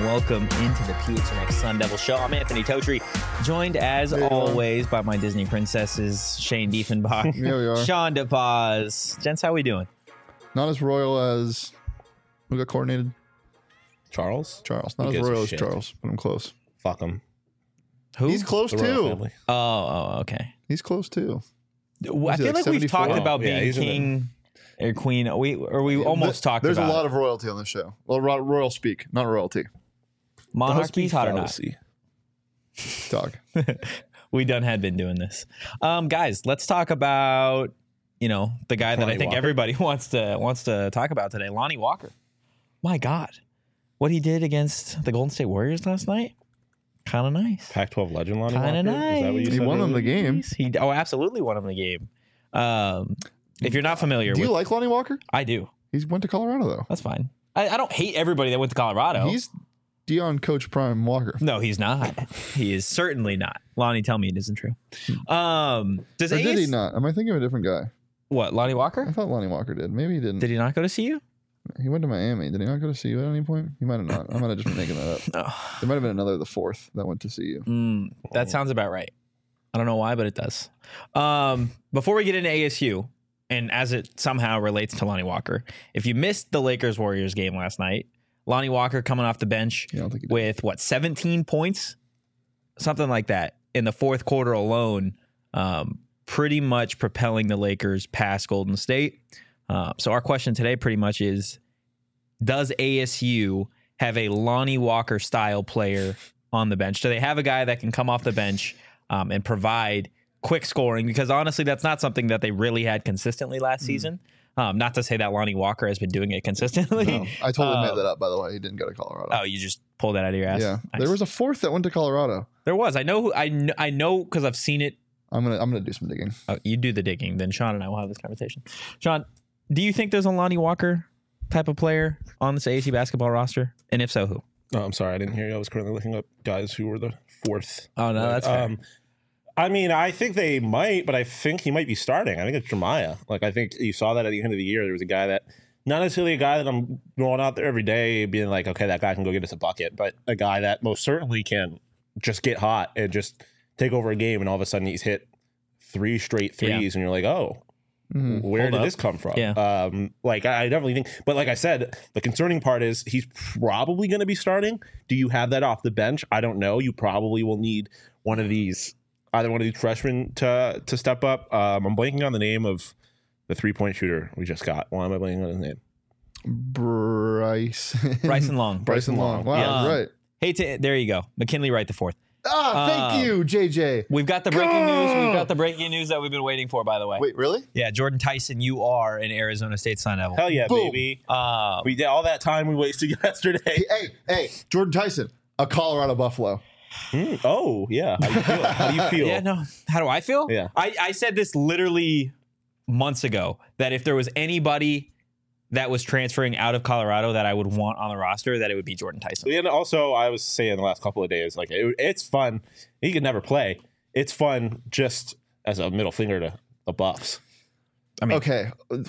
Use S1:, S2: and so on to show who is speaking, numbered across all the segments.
S1: welcome into the PHNX Sun Devil Show. I'm Anthony Totri, joined as always by my Disney princesses, Shane Diefenbach,
S2: Here we are.
S1: Sean DePaz. Gents, how we doing?
S2: Not as royal as who got coordinated?
S3: Charles?
S2: Charles. Not
S3: Who
S2: as
S3: gives a
S2: royal as
S3: shit?
S2: Charles, but I'm close.
S3: Fuck him.
S1: Who?
S2: He's close
S3: The royal
S2: too.
S3: family.
S1: Oh, okay.
S2: He's close too.
S1: I
S2: he,
S1: feel
S2: like,
S1: like we've
S2: 74?
S1: talked about
S3: Yeah,
S1: being
S3: he's in it.
S1: king or queen. We almost talked
S2: There's
S1: about
S2: a lot of royalty on this show. Well, royal speak, not royalty.
S1: monarchies, hot or not.
S3: Fallacy.
S2: Talk.
S1: We done had been doing this. Guys, let's talk about, the guy that I
S3: Lonnie
S1: think
S3: Walker.
S1: everybody wants to talk about today, Lonnie Walker. My God. What he did against the Golden State Warriors last night? Kind of nice.
S3: Pac-12 legend Lonnie
S1: Kinda
S3: Walker? Is that what you
S1: nice.
S2: He
S3: said
S2: won him the
S3: earlier?
S2: game.
S1: He absolutely won him the game. If you're not familiar
S2: Do
S1: with
S2: you like Lonnie Walker?
S1: I do.
S2: He went to Colorado though.
S1: That's fine. I don't hate everybody that went to Colorado.
S2: He's Deion Coach Prime Walker.
S1: No, he's not. He is certainly not. Lonnie, tell me it isn't true. Does
S2: Or did he
S1: AS
S2: not? Am I thinking of a different guy?
S1: What, Lonnie
S2: I
S1: Walker?
S2: thought Lonnie Walker did. Maybe he didn't.
S1: Did he not go to see you?
S2: He went to Miami. Did he not go to CU at any point? He might have not. I might have just been making that up.
S1: No.
S2: There might have been another, the fourth, that went to CU.
S1: That sounds about right. I don't know why, but it does. Before we get into ASU, and as it somehow relates to Lonnie Walker, if you missed the Lakers-Warriors game last night, Lonnie Walker coming off the bench
S2: Yeah, I don't think he did.
S1: with, 17 points? Something like that in the fourth quarter alone, pretty much propelling the Lakers past Golden State. So our question today pretty much is, does ASU have a Lonnie Walker style player on the bench? Do they have a guy that can come off the bench and provide quick scoring? Because honestly, that's not something that they really had consistently last season. Not to say that Lonnie Walker has been doing it consistently.
S2: No, I totally made that up, by the way. He didn't go to Colorado.
S1: Oh, you just pulled that out of your ass.
S2: Yeah.
S1: Nice.
S2: There was a fourth that went to Colorado.
S1: There was. I know. I know because I've seen it.
S2: I'm gonna do some digging.
S1: Oh, you do the digging, then Sean and I will have this conversation. Sean, do you think there's a Lonnie Walker type of player on this ASU basketball roster? And if so, who?
S3: Oh, I'm sorry. I didn't hear you. I was currently looking up guys who were the fourth.
S1: Oh, no, that's fair.
S3: I mean, I think they might, but I think he might be starting. I think it's Jeremiah. Like, I think you saw that at the end of the year. There was a guy that, not necessarily a guy that I'm going out there every day being like, okay, that guy can go get us a bucket, but a guy that most certainly can just get hot and just take over a game, and all of a sudden he's hit 3 straight threes, and you're like, oh, where
S1: Hold
S3: did
S1: up.
S3: this come from?
S1: Yeah.
S3: I definitely think, but like I said, the concerning part is he's probably going to be starting. Do you have that off the bench? I don't know. You probably will need either one of these freshmen to step up. I'm blanking on the name of the 3-point shooter we just got. Why am I blanking on his name?
S1: Bryson Long.
S2: Bryson Long. Wow,
S1: Yeah.
S2: right.
S1: There you go. McKinley Wright the fourth.
S2: Thank you, JJ.
S1: We've got the breaking news. We've got the breaking news that we've been waiting for, by the way.
S2: Wait, really?
S1: Yeah, Jordan Tyson, you are an Arizona State Sun Devil.
S3: Hell yeah,
S2: Boom.
S3: baby. We did all that time we wasted yesterday.
S2: Hey, Jordan Tyson, a Colorado Buffalo.
S3: Oh, yeah. How do you feel? How do you feel?
S1: Yeah, no. How do I feel?
S3: Yeah.
S1: I said this literally months ago, that if there was anybody that was transferring out of Colorado that I would want on the roster, that it would be Jordan Tyson.
S3: And also, I was saying the last couple of days, like, it's fun. He could never play. It's fun just as a middle finger to the Buffs.
S1: I mean,
S2: Okay.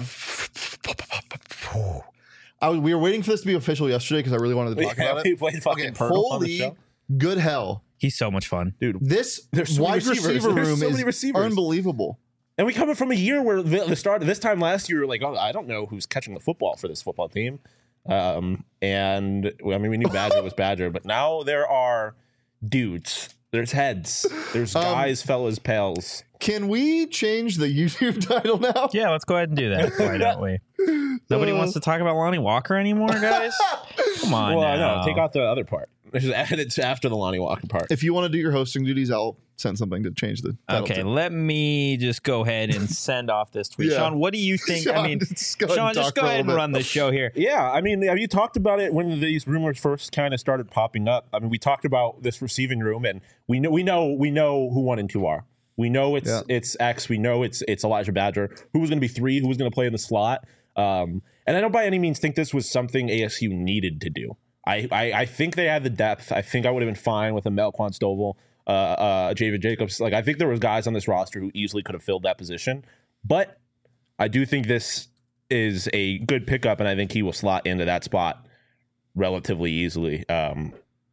S2: We were waiting for this to be official yesterday because I really wanted to talk about
S3: We
S2: it.
S3: played fucking
S2: Okay,
S3: Purtle on the
S2: holy
S3: show.
S2: good hell.
S1: he's so much fun.
S3: Dude,
S2: This
S3: There's so many
S2: wide
S3: receivers.
S2: receiver
S3: There's
S2: room
S3: so many
S2: is
S3: receivers.
S2: unbelievable.
S3: and we coming from a year where the start of this time last year, we were like, oh, I don't know who's catching the football for this football team. And I mean, we knew Badger was Badger, but now there are dudes. There's heads. There's guys, fellas, pals.
S2: Can we change the YouTube title now?
S1: Yeah, let's go ahead and do that. Why don't we? Nobody wants to talk about Lonnie Walker anymore, guys? Come on
S3: Well,
S1: now.
S3: no, take out the other part. Just add it after the Lonnie Walker part.
S2: If you want to do your hosting duties, I'll send something to change the title.
S1: Okay,
S2: to.
S1: let me just go ahead and send off this tweet.
S2: Yeah.
S1: Sean, what do you think?
S2: Sean,
S1: I mean,
S2: just go ahead
S1: Sean,
S2: and
S1: just
S2: talk
S1: go
S2: for a
S1: ahead and
S2: little
S1: run
S2: bit.
S1: the show here.
S3: Yeah, I mean, have you talked about it when these rumors first kind of started popping up? I mean, we talked about this receiving room, and we know who 1 and 2 are. We know it's X. We know it's Elijah Badger. Who was going to be 3? Who was going to play in the slot? And I don't by any means think this was something ASU needed to do. I think they had the depth. I think I would have been fine with a Melquan Stovall, Javid Jacobs. Like, I think there was guys on this roster who easily could have filled that position. But I do think this is a good pickup, and I think he will slot into that spot relatively easily.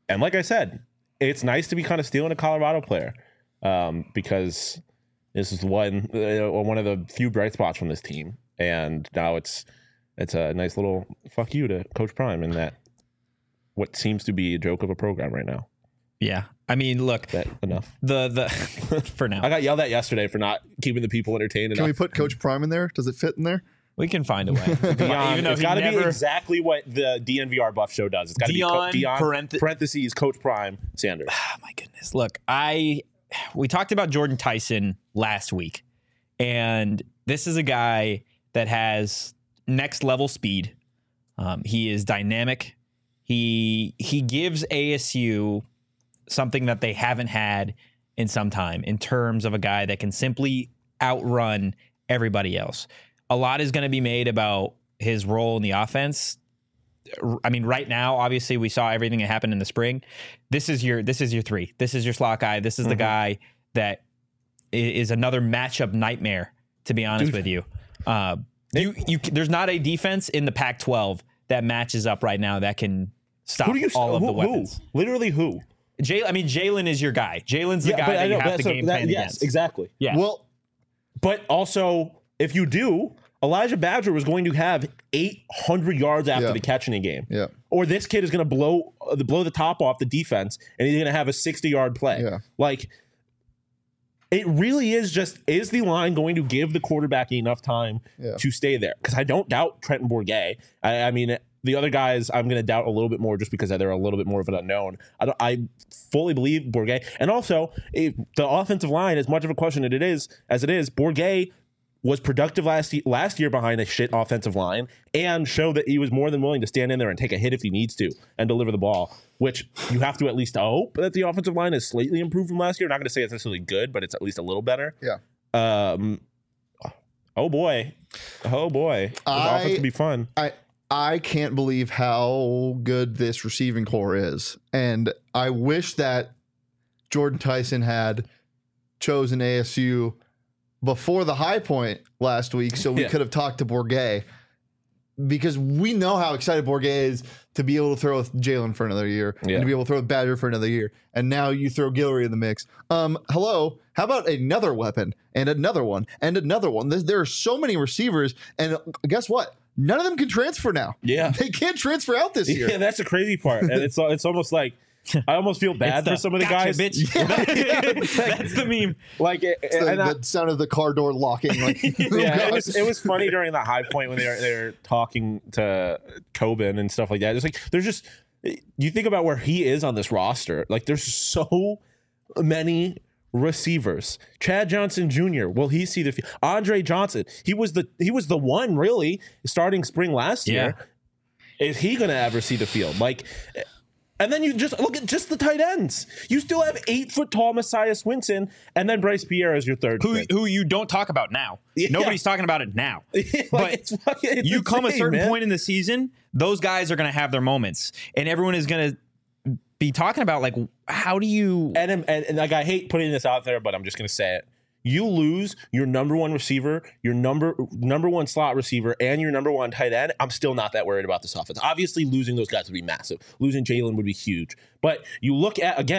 S3: And like I said, it's nice to be kind of stealing a Colorado player because this is one of the few bright spots from this team. And now it's a nice little fuck you to Coach Prime and that what seems to be a joke of a program right now.
S1: Yeah. I mean, look,
S3: that enough.
S1: The for now.
S3: I got yelled at yesterday for not keeping the people entertained enough.
S2: Can we put Coach Prime in there? Does it fit in there?
S1: We can find a way.
S3: Even though it's got to be exactly what the DNVR Buff Show does. It's got to be Dion parentheses Coach Prime Sanders.
S1: Oh my goodness! Look, we talked about Jordan Tyson last week, and this is a guy that has next level speed. He is dynamic. He gives ASU something that they haven't had in some time in terms of a guy that can simply outrun everybody else. A lot is going to be made about his role in the offense. I mean, right now, obviously, we saw everything that happened in the spring. This is your three. This is your slot guy. This is the guy that is another matchup nightmare, to be honest with you. There's not a defense in the Pac-12 that matches up right now that can stop all of the weapons.
S3: Who? Literally who?
S1: Jalen is your guy. Jalen's the guy that you have to game plan against.
S3: Yes, exactly.
S1: Yeah.
S3: Well, but also, if you do, Elijah Badger was going to have 800 yards after the catch in a game.
S2: Yeah.
S3: Or this kid is going to blow the top off the defense, and he's going to have a 60-yard play.
S2: Yeah.
S3: Like, it really is just, is the line going to give the quarterback enough time to stay there? Because I don't doubt Trenton Bourguet. I mean, the other guys I'm going to doubt a little bit more just because they're a little bit more of an unknown. I fully believe Bourguet. And also, the offensive line, as much of a question as it is, Bourguet was productive last year behind a shit offensive line and showed that he was more than willing to stand in there and take a hit if he needs to and deliver the ball, which you have to at least hope that the offensive line is slightly improved from last year. I'm not going to say it's necessarily good, but it's at least a little better.
S2: Yeah.
S3: Oh boy. This offense will be fun.
S2: I can't believe how good this receiving core is. And I wish that Jordan Tyson had chosen ASU before the high point last week so we could have talked to Bourguet, because we know how excited Bourguet is to be able to throw with Jalen for another year and to be able to throw with Badger for another year. And now you throw Guillory in the mix. Hello, how about another weapon and another one and another one? There are so many receivers, and guess what? None of them can transfer now.
S3: Yeah.
S2: They can't transfer out this year.
S3: Yeah, that's the crazy part. And it's almost like, I almost feel bad for some of the guys.
S1: Bitch. Yeah. That's the meme.
S2: Like the sound of the car door locking. Like,
S3: it was funny during that high point when they were talking to Coben and stuff like that. It's like there's just, you think about where he is on this roster. Like there's so many receivers. Chad Johnson Jr. Will he see the field? Andre Johnson. He was the one really starting spring last year. Is he going to ever see the field? Like. And then you just look at just the tight ends. You still have 8-foot-tall Messiah Swinson and then Bryce Pierre as your third.
S1: Who you don't talk about now. Yeah. Nobody's talking about it now. But
S3: it's
S1: you
S3: insane,
S1: come a certain
S3: man.
S1: point in the season, those guys are going to have their moments. And everyone is going to be talking about, like, how do you...
S3: And like, I hate putting this out there, but I'm just going to say it. You lose your number one receiver, your number one slot receiver, and your number one tight end. I'm still not that worried about this offense. Obviously, losing those guys would be massive. Losing Jalen would be huge. But you look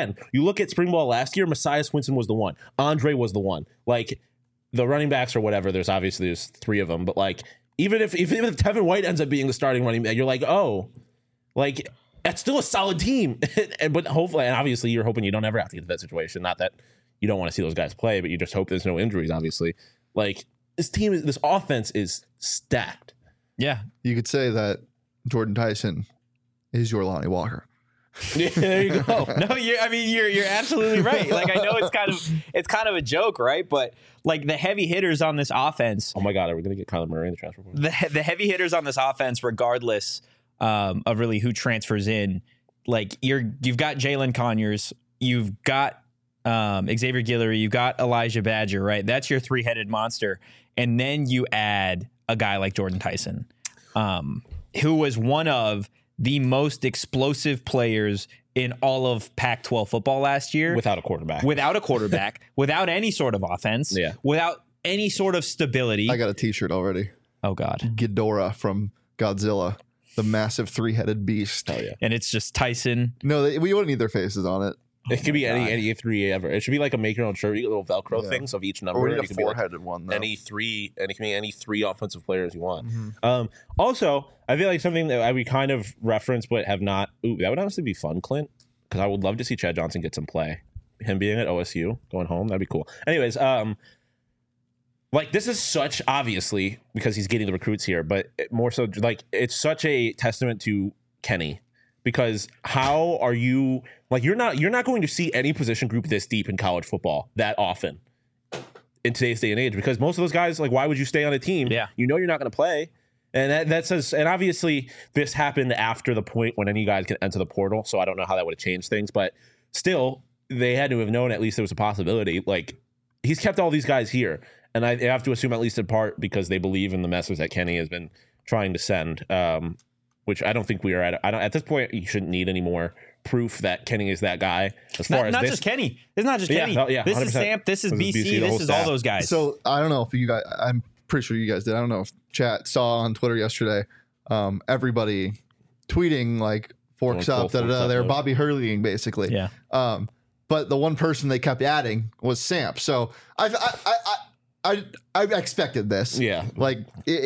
S3: at spring ball last year, Messiah Swinson was the one. Andre was the one. Like, the running backs or whatever, there's three of them. But, like, even if Tevin White ends up being the starting running back, you're like, oh, like, that's still a solid team. But hopefully, and obviously, you're hoping you don't ever have to get to that situation. Not that you don't want to see those guys play, but you just hope there's no injuries, obviously. Like, this offense is stacked.
S1: Yeah.
S2: You could say that Jordan Tyson is your Lonnie Walker.
S3: Yeah, there you go.
S1: No, you're absolutely right. Like, I know it's kind of a joke, right? But like the heavy hitters on this offense.
S3: Oh my God, are we gonna get Kyler Murray in the transfer portal?
S1: The heavy hitters on this offense, regardless of really who transfers in, like you've got Jalen Conyers, you've got Xavier Guillory, you've got Elijah Badger, right? That's your three-headed monster. And then you add a guy like Jordan Tyson, who was one of the most explosive players in all of Pac-12 football last year.
S3: Without a quarterback.
S1: Without any sort of offense.
S3: Yeah.
S1: Without any sort of stability.
S2: I got a t-shirt already.
S1: Oh, God.
S2: Ghidorah from Godzilla. the massive 3-headed beast.
S3: Oh yeah.
S1: And it's just Tyson.
S2: No, we wouldn't need their faces on it.
S3: It could be
S1: God.
S3: any three ever. It should be like a make your own shirt. You get little Velcro things of each number.
S2: Or we need
S3: You
S2: a
S3: could be like
S2: 4-headed one, though.
S3: any three, and it can be any three offensive players you want. Also, I feel like something that we kind of referenced but have not. Ooh, that would honestly be fun, Clint, because I would love to see Chad Johnson get some play. Him being at OSU, going home, that'd be cool. Anyways, like this is such obviously because he's getting the recruits here, but more so like it's such a testament to Kenny. Because how are you like you're not going to see any position group this deep in college football that often in today's day and age, because most of those guys, like, why would you stay on a team?
S1: Yeah.
S3: You know you're not going to play. And that says, and obviously this happened after the point when any guys can enter the portal, so I don't know how that would have changed things, but still they had to have known at least there was a possibility. Like, he's kept all these guys here, and I have to assume at least in part because they believe in the message that Kenny has been trying to send. Which I don't think we are at. At this point, you shouldn't need any more proof that Kenny is that guy. As far as
S1: Not
S3: this,
S1: just Kenny. It's not just
S3: Yeah,
S1: Kenny.
S3: no, yeah,
S1: This is
S3: 100%.
S1: Samp. This is
S3: This is
S1: BC.
S3: the
S1: This
S3: whole
S1: is all
S3: staff.
S1: those guys.
S2: So I don't know if you guys, I'm pretty sure you guys did. I don't know if chat saw on Twitter yesterday, everybody tweeting like forks
S3: Going
S2: up,
S3: full forks up
S2: they're
S3: mode.
S2: Bobby Hurleying basically.
S1: yeah.
S2: But the one person they kept adding was Samp. So I expected this.
S3: Yeah.
S2: Like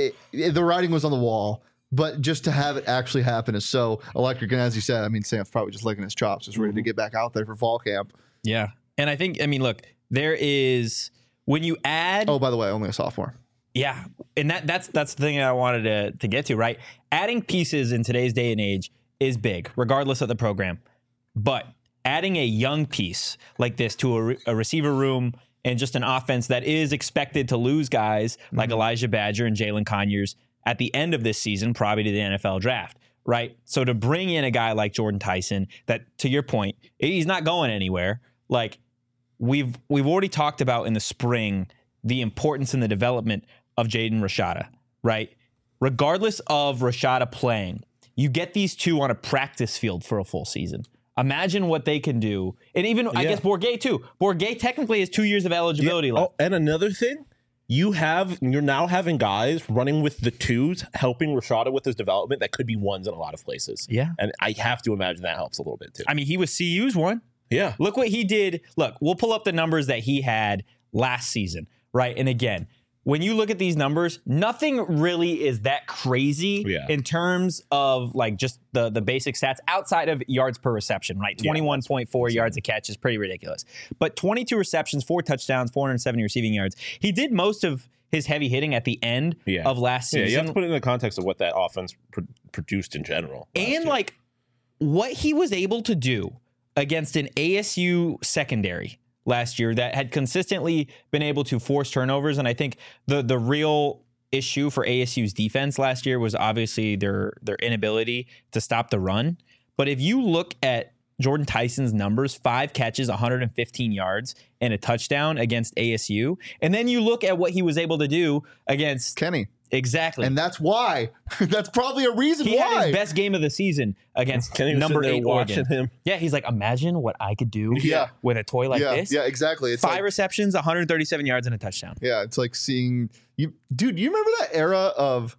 S2: the writing was on the wall, but just to have it actually happen is so electric. And as you said, I mean, Samp's probably just licking his chops, just ready to get back out there for fall camp.
S1: Yeah. And I think, I mean, look, there is, when you add.
S2: Oh, by the way, only a sophomore.
S1: Yeah, and that's the thing I wanted to get to, right? Adding pieces in today's day and age is big, regardless of the program. But adding a young piece like this to a receiver room and just an offense that is expected to lose guys like Elijah Badger and Jalen Conyers at the end of this season, probably to the NFL draft, right? So to bring in a guy like Jordan Tyson, that, to your point, he's not going anywhere. Like we've already talked about in the spring the importance and the development of Jaden Rashada, right? Regardless of Rashada playing, you get these two on a practice field for a full season. Imagine what they can do. And even, I guess, Bourguet, too. Bourguet technically has 2 years of eligibility left.
S3: Oh, and another thing, you're now having guys running with the twos, helping Rashada with his development that could be ones in a lot of places.
S1: Yeah.
S3: And I have to imagine that helps a little bit too.
S1: I mean, he was CU's one.
S3: Yeah.
S1: Look what he did. Look, we'll pull up the numbers that he had last season, right? And again, when you look at these numbers, nothing really is that crazy in terms of like just the basic stats outside of yards per reception, right? 21.4 yards a catch is pretty ridiculous. But 22 receptions, 4 touchdowns, 470 receiving yards. He did most of his heavy hitting at the end of last season.
S3: Yeah, you have to put it in the context of what that offense produced in general.
S1: And like what he was able to do against an ASU secondary last year that had consistently been able to force turnovers. And I think the real issue for ASU's defense last year was obviously their inability to stop the run. But if you look at Jordan Tyson's numbers, 5 catches, 115 yards, and a touchdown against ASU, and then you look at what he was able to do against
S2: Kenny.
S1: Exactly.
S2: And that's why. That's probably a reason
S1: he
S2: why.
S1: had his best game of the season against
S3: Kenny was
S1: number
S3: sitting there
S1: 8 Oregon.
S3: watching him.
S1: Yeah, he's like, imagine what I could do
S2: Yeah.
S1: with a toy like this.
S2: Yeah, exactly. It's
S1: 5
S2: like,
S1: receptions, 137 yards, and a touchdown.
S2: yeah, it's like seeing you, dude. You remember that era of,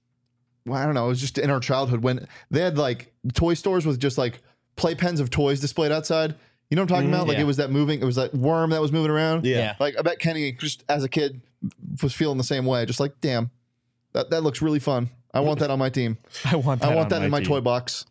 S2: well, I don't know, it was just in our childhood when they had like toy stores with just like playpens of toys displayed outside. You know what I'm talking about? Like
S1: yeah.
S2: it was that worm that was moving around.
S1: Yeah.
S2: Like I bet Kenny just as a kid was feeling the same way. Just like, damn, that looks really fun. I want that on my team.
S1: I want
S2: that in my toy box.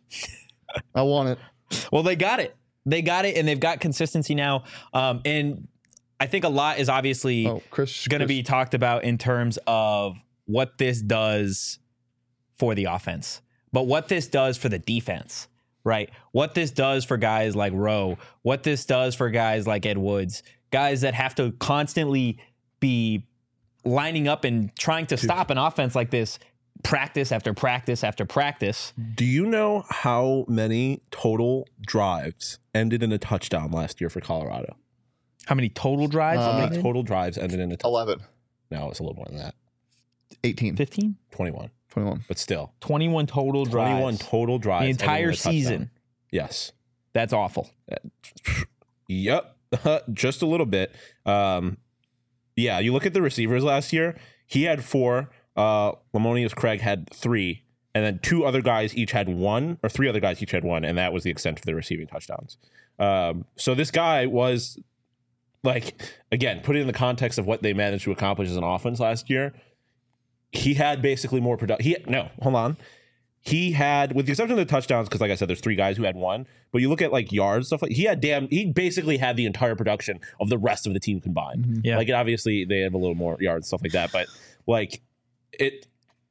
S2: I want it.
S1: Well, they got it. They got it, and they've got consistency now. And I think a lot is obviously going to be talked about in terms of what this does for the offense, but what this does for the defense, right? What this does for guys like Rowe, what this does for guys like Ed Woods, guys that have to constantly be lining up and trying to stop an offense like this practice after practice after practice.
S3: Do you know how many total drives ended in a touchdown last year for Colorado?
S1: How many total drives?
S3: How many total drives ended in a touchdown?
S2: 11,
S3: No, it's a little more than that.
S2: 18,
S1: 15?
S3: 21.
S2: 21.
S3: But still.
S1: 21 total drives.
S3: 21 total drives.
S1: The
S3: ending in
S1: entire
S3: a touchdown.
S1: season.
S3: Yes.
S1: That's awful.
S3: Yep. Just a little bit. Yeah, you look at the receivers last year. He had 4. Lamonius Craig had 3. and then 2 other guys each had 1, or 3 other guys each had 1, and that was the extent of their receiving touchdowns. So this guy was, like, again, put it in the context of what they managed to accomplish as an offense last year. He had basically more production. He had, with the exception of the touchdowns, because like I said, there's 3 guys who had 1. But you look at like yards, stuff like he basically had the entire production of the rest of the team combined.
S1: Mm-hmm. Yeah.
S3: Like, obviously they have a little more yards, stuff like that. But like it,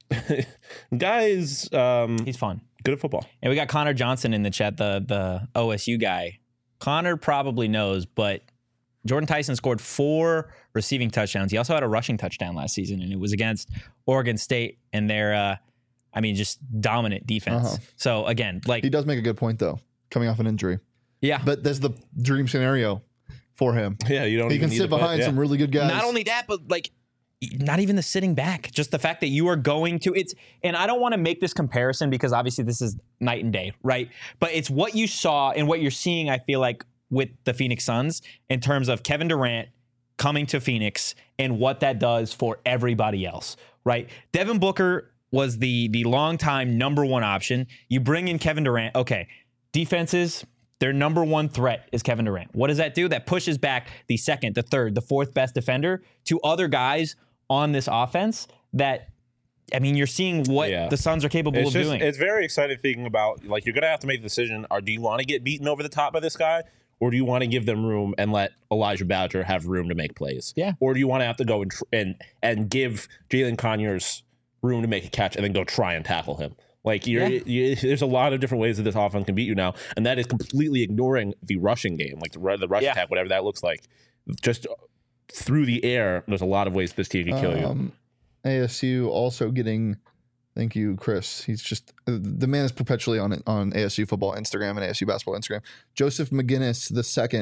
S3: guys,
S1: he's fun,
S3: good at football.
S1: And we got Connor Johnson in the chat, the OSU guy. Connor probably knows, but Jordan Tyson scored 4 receiving touchdowns. He also had a rushing touchdown last season, and it was against Oregon State and their, just dominant defense. So again, like,
S2: he does make a good point though, coming off an injury.
S1: Yeah,
S2: but that's the dream scenario for him.
S3: Yeah, you don't.
S2: He can sit behind some really good guys.
S1: Not only that, but like, not even the sitting back. Just the fact that you are going to and I don't want to make this comparison because obviously this is night and day, right? But it's what you saw and what you're seeing. I feel like with the Phoenix Suns in terms of Kevin Durant coming to Phoenix and what that does for everybody else, right? Devin Booker was the longtime number 1 option. You bring in Kevin Durant. Okay, defenses, their number 1 threat is Kevin Durant. What does that do? That pushes back the 2nd, the 3rd, the 4th best defender to other guys on this offense that, you're seeing what the Suns are capable of doing.
S3: It's very exciting thinking about, like, you're going to have to make the decision, or do you want to get beaten over the top by this guy? Or do you want to give them room and let Elijah Badger have room to make plays?
S1: Yeah.
S3: Or do you want to have to go and give Jalen Conyers room to make a catch and then go try and tackle him? Like, there's a lot of different ways that this offense can beat you now, and that is completely ignoring the rushing game, like the rush attack, whatever that looks like. Just through the air, there's a lot of ways this team can kill you.
S2: ASU also getting... Thank you, Chris. He's just the man is perpetually on ASU football Instagram and ASU basketball Instagram. Joseph McGinnis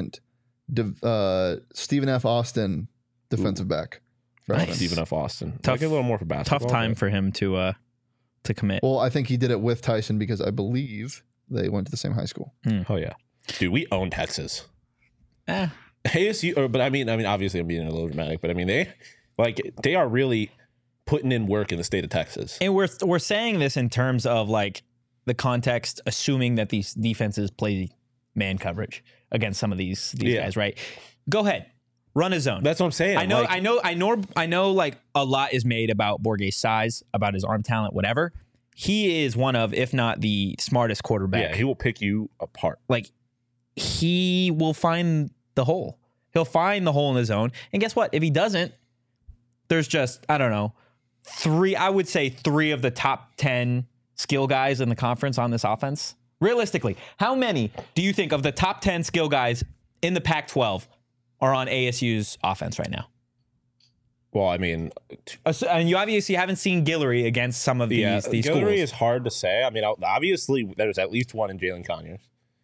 S2: II, Stephen F. Austin, defensive back.
S1: Nice.
S3: Stephen F. Austin.
S1: Tough,
S3: a little more for basketball.
S1: Tough time for him to commit.
S2: Well, I think he did it with Tyson because I believe they went to the same high school.
S3: Oh yeah, dude, we own Texas. ASU, but I mean, obviously I'm being a little dramatic, but they are really putting in work in the state of Texas.
S1: And we're saying this in terms of like the context, assuming that these defenses play man coverage against some of these guys, right? Go ahead, run a zone.
S3: That's what I'm saying.
S1: I know. Like, a lot is made about Borghe's size, about his arm talent, whatever. He is one of, if not the smartest quarterback.
S3: Yeah, he will pick you apart.
S1: Like, he will find the hole. He'll find the hole in the zone. And guess what? If he doesn't, there's just, I don't know, 3 of the top 10 skill guys in the conference on this offense. Realistically, how many do you think of the top 10 skill guys in the Pac-12 are on ASU's offense right now?
S3: Well, I mean,
S1: and you obviously haven't seen Guillory against some of these
S3: Guillory
S1: schools.
S3: Guillory is hard to say. I mean, obviously there's at least one in Jalen Conyers.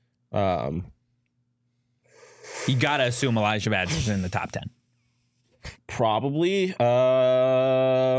S1: You got to assume Elijah Badger's in the top 10.
S3: Probably. I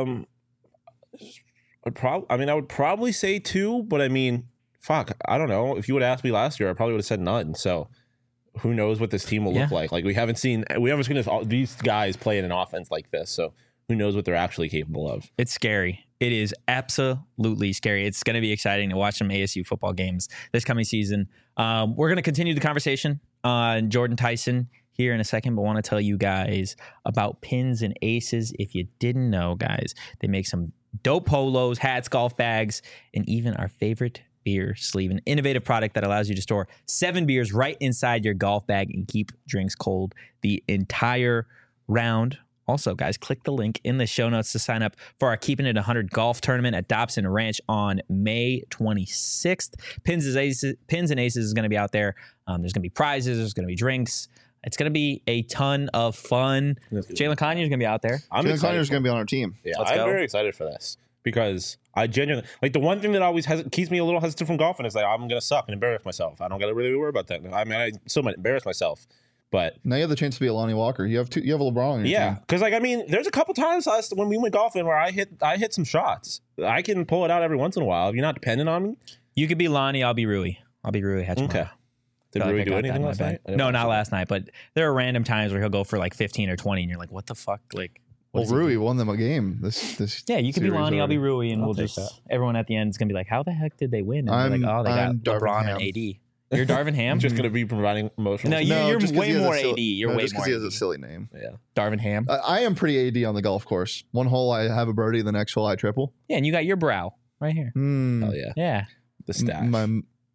S3: would probably say 2, but I mean, fuck, I don't know. If you would ask me last year, I probably would have said none. So who knows what this team will look like? Like, we haven't seen these guys play in an offense like this. So who knows what they're actually capable of?
S1: It's scary. It is absolutely scary. It's going to be exciting to watch some ASU football games this coming season. We're going to continue the conversation on Jordan Tyson here in a second, but want to tell you guys about Pins and Aces. If you didn't know, guys, they make some dope polos, hats, golf bags, and even our favorite beer sleeve, an innovative product that allows you to store 7 beers right inside your golf bag and keep drinks cold the entire round. Also, guys, click the link in the show notes to sign up for our Keeping It 100 golf tournament at Dobson Ranch on May 26th. Pins and Aces is going to be out there. There's going to be prizes. There's going to be drinks. It's going to be a ton of fun. Jalen Conyers is going to be out there.
S2: Jalen Conyers is going to be on our team.
S3: Yeah, I'm very excited for this because I genuinely, like, the one thing that always keeps me a little hesitant from golfing is like, I'm going to suck and embarrass myself. I don't got to really worry about that. I mean, I still might embarrass myself, but
S2: now you have the chance to be a Lonnie Walker. You have a LeBron on your team.
S3: Because, like, I mean, there's a couple times when we went golfing where I hit some shots. I can pull it out every once in a while if you're not dependent on me.
S1: You could be Lonnie. I'll be Rui. Okay.
S3: Did Rui do anything last night?
S1: No, not last night, but there are random times where he'll go for like 15 or 20 and you're like, what the fuck? Like,
S2: Well, Rui won them a game. This
S1: yeah, you could be
S2: series
S1: Lonnie, I'll be
S2: already.
S1: Rui, and
S3: I'll
S1: we'll
S3: take
S1: just
S3: that.
S1: everyone at the end is gonna be like, how the heck did they win? And they're like, oh, they
S2: I'm
S1: got
S2: Darvin
S1: LeBron
S2: Ham.
S1: and AD. You're Darvin Ham.
S3: I'm just going to be providing emotional.
S1: No,
S3: support.
S1: you're
S2: just 'cause
S1: way
S2: he has a
S1: more
S2: silly-
S1: AD. You're
S2: no,
S1: way
S2: just
S1: more
S2: because he has a
S1: AD.
S2: silly name.
S3: Yeah.
S1: Darvin Ham.
S2: I am pretty AD on the golf course. One hole I have a birdie, the next hole I triple.
S1: Yeah, and you got your brow right here.
S3: Hell yeah.
S1: Yeah.
S3: The stash.
S2: My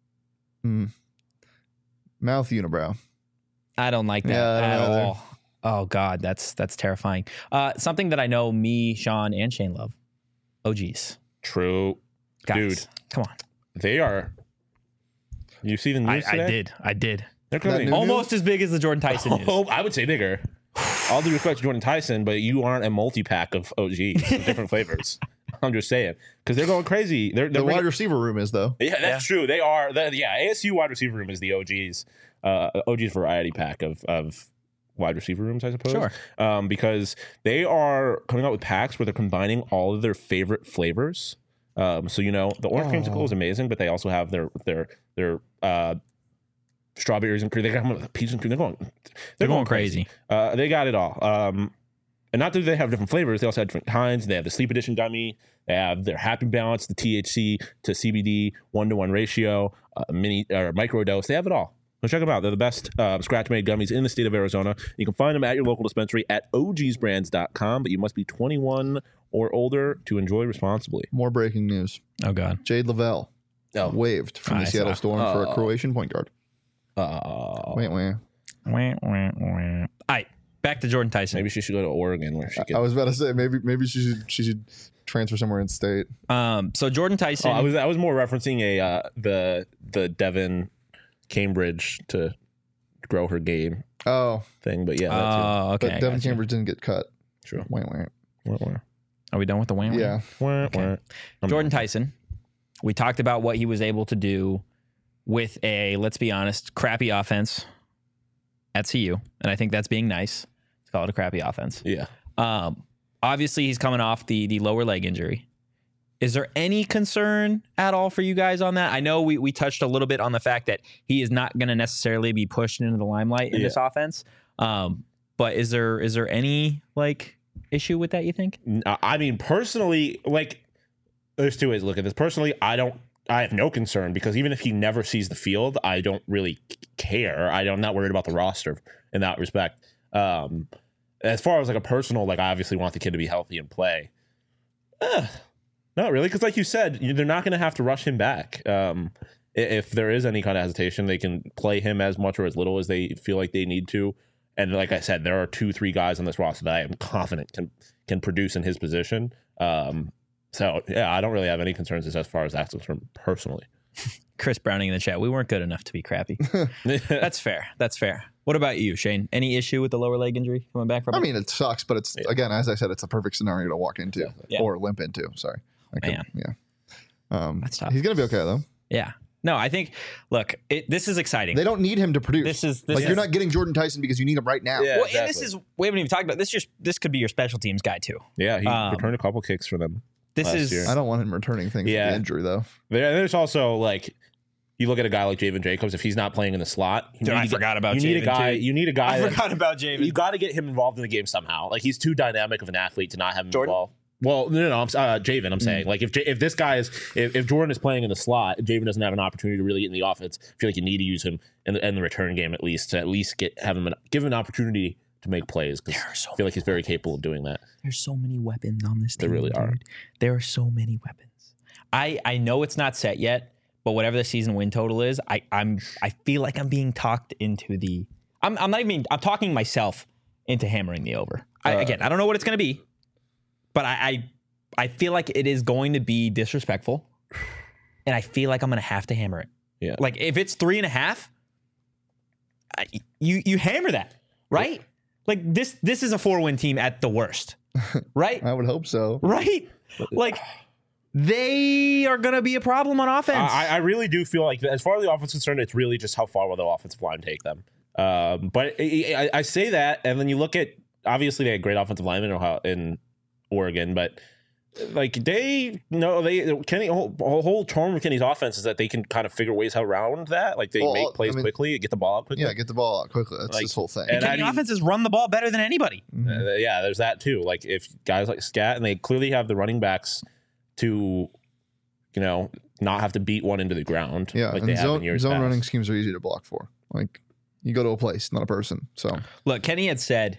S2: mouth unibrow.
S1: I don't like that
S2: Yeah, I don't
S1: at
S2: either.
S1: all. Oh God, that's terrifying. Something that I know me, Sean, and Shane love. OGs.
S3: True.
S1: Guys,
S3: Dude.
S1: come on.
S3: They are. You see the news today?
S1: I did.
S3: They're coming.
S2: That new-
S1: Almost as big as the Jordan Tyson news.
S3: Oh, I would say bigger. All due respect to Jordan Tyson, but you aren't a multi-pack of OGs with different flavors. I'm just saying. Because they're going crazy. They're
S2: The
S3: bringing-
S2: wide receiver room is, though.
S3: Yeah, that's true. They are. ASU wide receiver room is the OGs. OGs variety pack of wide receiver rooms, I suppose.
S1: Sure.
S3: Because they are coming out with packs where they're combining all of their favorite flavors. So the orange creamsicle is amazing, but they also have their strawberries and cream. They got them with peach and cream. They're going crazy. They got it all. And not that they have different flavors, they also have different kinds. They have the sleep edition gummy. They have their happy balance, the THC to CBD 1-to-1 ratio, mini or micro dose. They have it all. So check them out. They're the best scratch-made gummies in the state of Arizona. You can find them at your local dispensary at ogsbrands.com, but you must be 21 or older to enjoy responsibly.
S2: More breaking news.
S1: Oh God.
S2: Jade Lavelle waived from the
S1: I
S2: Seattle
S1: saw.
S2: Storm for a Croatian point guard. Wait.
S1: All right, back to Jordan Tyson.
S3: Maybe she should go to Oregon where she
S2: I
S3: can.
S2: was about to say maybe she should transfer somewhere in state.
S1: So Jordan Tyson.
S3: I was more referencing the Devin Cambridge to grow her game
S2: Oh,
S3: thing, but yeah, that too.
S1: Okay.
S2: but Devin
S1: gotcha.
S2: Cambridge didn't get cut.
S3: True.
S2: Wait.
S1: Are we done with the wham?
S2: Yeah.
S1: Jordan Tyson. We talked about what he was able to do with a, let's be honest, crappy offense at CU, and I think that's being nice. Let's call it a crappy offense.
S3: Yeah.
S1: Obviously, he's coming off the lower leg injury. Is there any concern at all for you guys on that? I know we touched a little bit on the fact that he is not going to necessarily be pushed into the limelight in this offense. But is there any issue with that, you think?
S3: I mean, personally, there's two ways to look at this. Personally, I have no concern because even if he never sees the field, I don't really care. I'm not worried about the roster in that respect. As far as a personal, I obviously want the kid to be healthy and play. Not really, because like you said, they're not going to have to rush him back. If there is any kind of hesitation, they can play him as much or as little as they feel like they need to. And like I said, there are 2-3 guys on this roster that I am confident can produce in his position. So yeah, I don't really have any concerns as far as that's concerned personally.
S1: Chris Browning in the chat. We weren't good enough to be crappy. That's fair. That's fair. What about you, Shane? Any issue with the lower leg injury coming back from it?
S2: I mean, it sucks, but it's again, as I said, it's a perfect scenario to walk into
S1: Yeah.
S2: or limp into. Sorry,
S1: Man.
S2: Yeah.
S1: That's tough.
S2: He's gonna be okay though.
S1: Yeah. No, I think. Look, this is exciting.
S2: They don't need him to produce.
S1: This is
S2: you're not getting Jordan Tyson because you need him right now.
S3: Yeah.
S1: Well, and
S3: exactly.
S1: we haven't even talked about this. This could be your special teams guy too.
S3: Yeah, he returned a couple kicks for them.
S1: This
S3: last
S1: is.
S3: year.
S2: I don't want him returning things
S3: Yeah.
S2: for the injury though.
S3: There's also you look at a guy like Javen Jacobs. If he's not playing in the slot,
S1: I forgot about
S3: you need a
S1: Javen,
S3: guy.
S1: too.
S3: You need a guy.
S1: I forgot about Javen.
S3: You got to get him involved in the game somehow. He's too dynamic of an athlete to not have him
S1: Jordan?
S3: involved. Well, no, I'm Javen. I'm saying if this guy is if Jordan is playing in the slot, Javen doesn't have an opportunity to really get in the offense. I feel like you need to use him in the return game at least to give him an opportunity to make plays. Because I feel like he's very capable of doing that.
S1: There's so many weapons on this team.
S3: There really are.
S1: Dude. There are so many weapons. I know it's not set yet, but whatever the season win total is, I feel like I'm being talked into the. I'm talking myself into hammering the over. Again, I don't know what it's going to be, but I feel like it is going to be disrespectful, and I feel like I'm going to have to hammer it.
S3: Yeah.
S1: If it's 3.5, you hammer that, right? This is a 4-win team at the worst, right?
S2: I would hope so.
S1: Right? They are going to be a problem on offense.
S3: I really do feel like, as far as the offense is concerned, it's really just how far will the offensive line take them. But I say that, and then you look at, obviously they had great offensive linemen in Oregon, but like Kenny whole charm of Kenny's offense is that they can kind of figure ways around that. Like they make plays quickly, get the ball out quickly.
S2: Yeah, get the ball out quickly. That's his whole thing.
S1: And Kenny offenses run the ball better than anybody.
S3: Yeah, there's that too. Like if guys like Scat, and they clearly have the running backs to, not have to beat one into the ground.
S2: Yeah,
S3: like
S2: and
S3: they have in years
S2: zone
S3: past.
S2: running schemes are easy to block for. Like you go to a place, not a person. So
S1: look, Kenny had said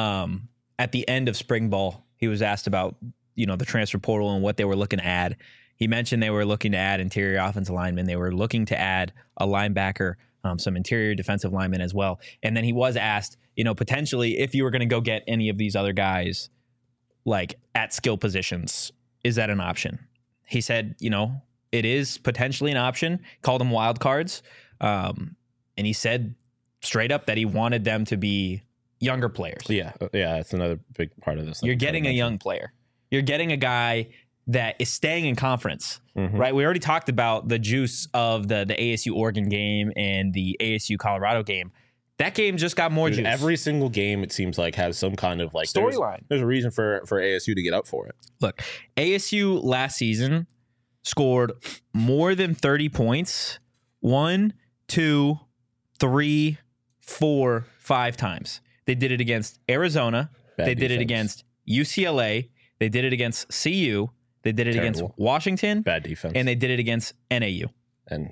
S1: at the end of spring ball, he was asked about the transfer portal and what they were looking to add. He mentioned they were looking to add interior offensive linemen. They were looking to add a linebacker, some interior defensive linemen as well. And then he was asked, potentially if you were going to go get any of these other guys, like at skill positions, is that an option? He said, it is potentially an option. Called them wild cards. And he said straight up that he wanted them to be younger players.
S3: Yeah, that's another big part of this.
S1: You're getting a young player. You're getting a guy that is staying in conference, right? We already talked about the juice of the ASU Oregon game and the ASU Colorado game. That game just got more juice.
S3: Every single game, it seems like, has some kind of like
S1: storyline.
S3: There's a reason for ASU to get up for it.
S1: Look, ASU last season scored more than 30 points 1, 2, 3, 4, 5 times. They did it against Arizona. They did it against UCLA. They did it against CU. They did it against Washington.
S3: Bad defense.
S1: And they did it against NAU.
S3: And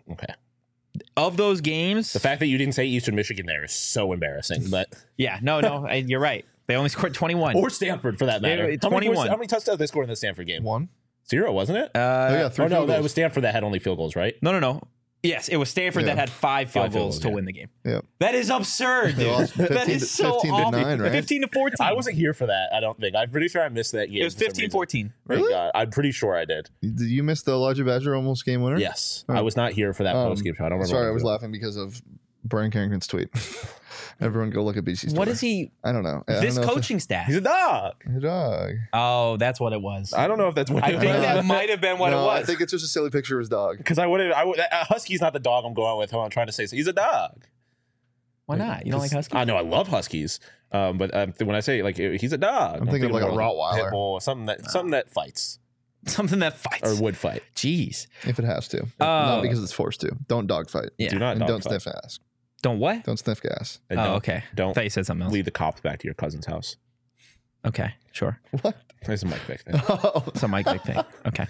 S1: of those games,
S3: the fact that you didn't say Eastern Michigan there is so embarrassing. But
S1: yeah, no, you're right. They only scored 21.
S3: Or Stanford, for that matter.
S1: 21.
S3: How many touchdowns they scored in the Stanford game?
S2: 1.
S3: 0, wasn't it?
S2: Yeah, 3 field
S3: that
S2: goals.
S3: was Stanford that had only field goals, right?
S1: No. Yes, it was Stanford that had 5 field goals to win the game.
S2: Yeah.
S1: That is absurd, dude. That is so
S2: 15 to
S1: awful.
S2: 9, right?
S1: 15 to 14.
S3: I wasn't here for that, I don't think. I'm pretty sure I missed that game.
S1: It was 15-14.
S2: Really?
S3: God, I'm pretty sure I did.
S2: Did you miss the Elijah Badger almost game winner?
S3: Yes. I was not here for that post-game show. I don't remember.
S2: Sorry, I was laughing because of Brian Carrington's tweet. Everyone go look at BC's
S1: What
S2: Twitter.
S1: is he?
S2: I don't know.
S1: This coaching staff.
S3: He's a dog.
S2: He's a dog.
S1: Oh, that's what it was.
S3: I don't know if that's what
S1: I think that might have been what it was.
S2: I think it's just a silly picture of his dog.
S3: Because Husky's not the dog I'm going with. I'm trying to say. So he's a dog.
S1: Why not? You don't like Huskies?
S3: I know I love Huskies, but when I say like he's a dog,
S2: I'm thinking of like a Rottweiler,
S3: pit bull, something that fights,
S1: something that fights
S3: or would fight.
S1: Jeez,
S2: if it has to, not because it's forced to. Don't dog fight.
S1: Yeah.
S3: Do not
S2: and
S3: dog
S2: don't
S3: fight.
S2: sniff ass.
S1: Don't what?
S2: Don't sniff gas.
S3: And
S1: okay. I
S3: Don't
S1: thought you said something else.
S3: lead the cops back to your cousin's house.
S1: Okay, sure.
S2: What?
S3: It's a Mike Vick thing.
S2: Oh,
S1: It's a Mike Vick thing. Okay.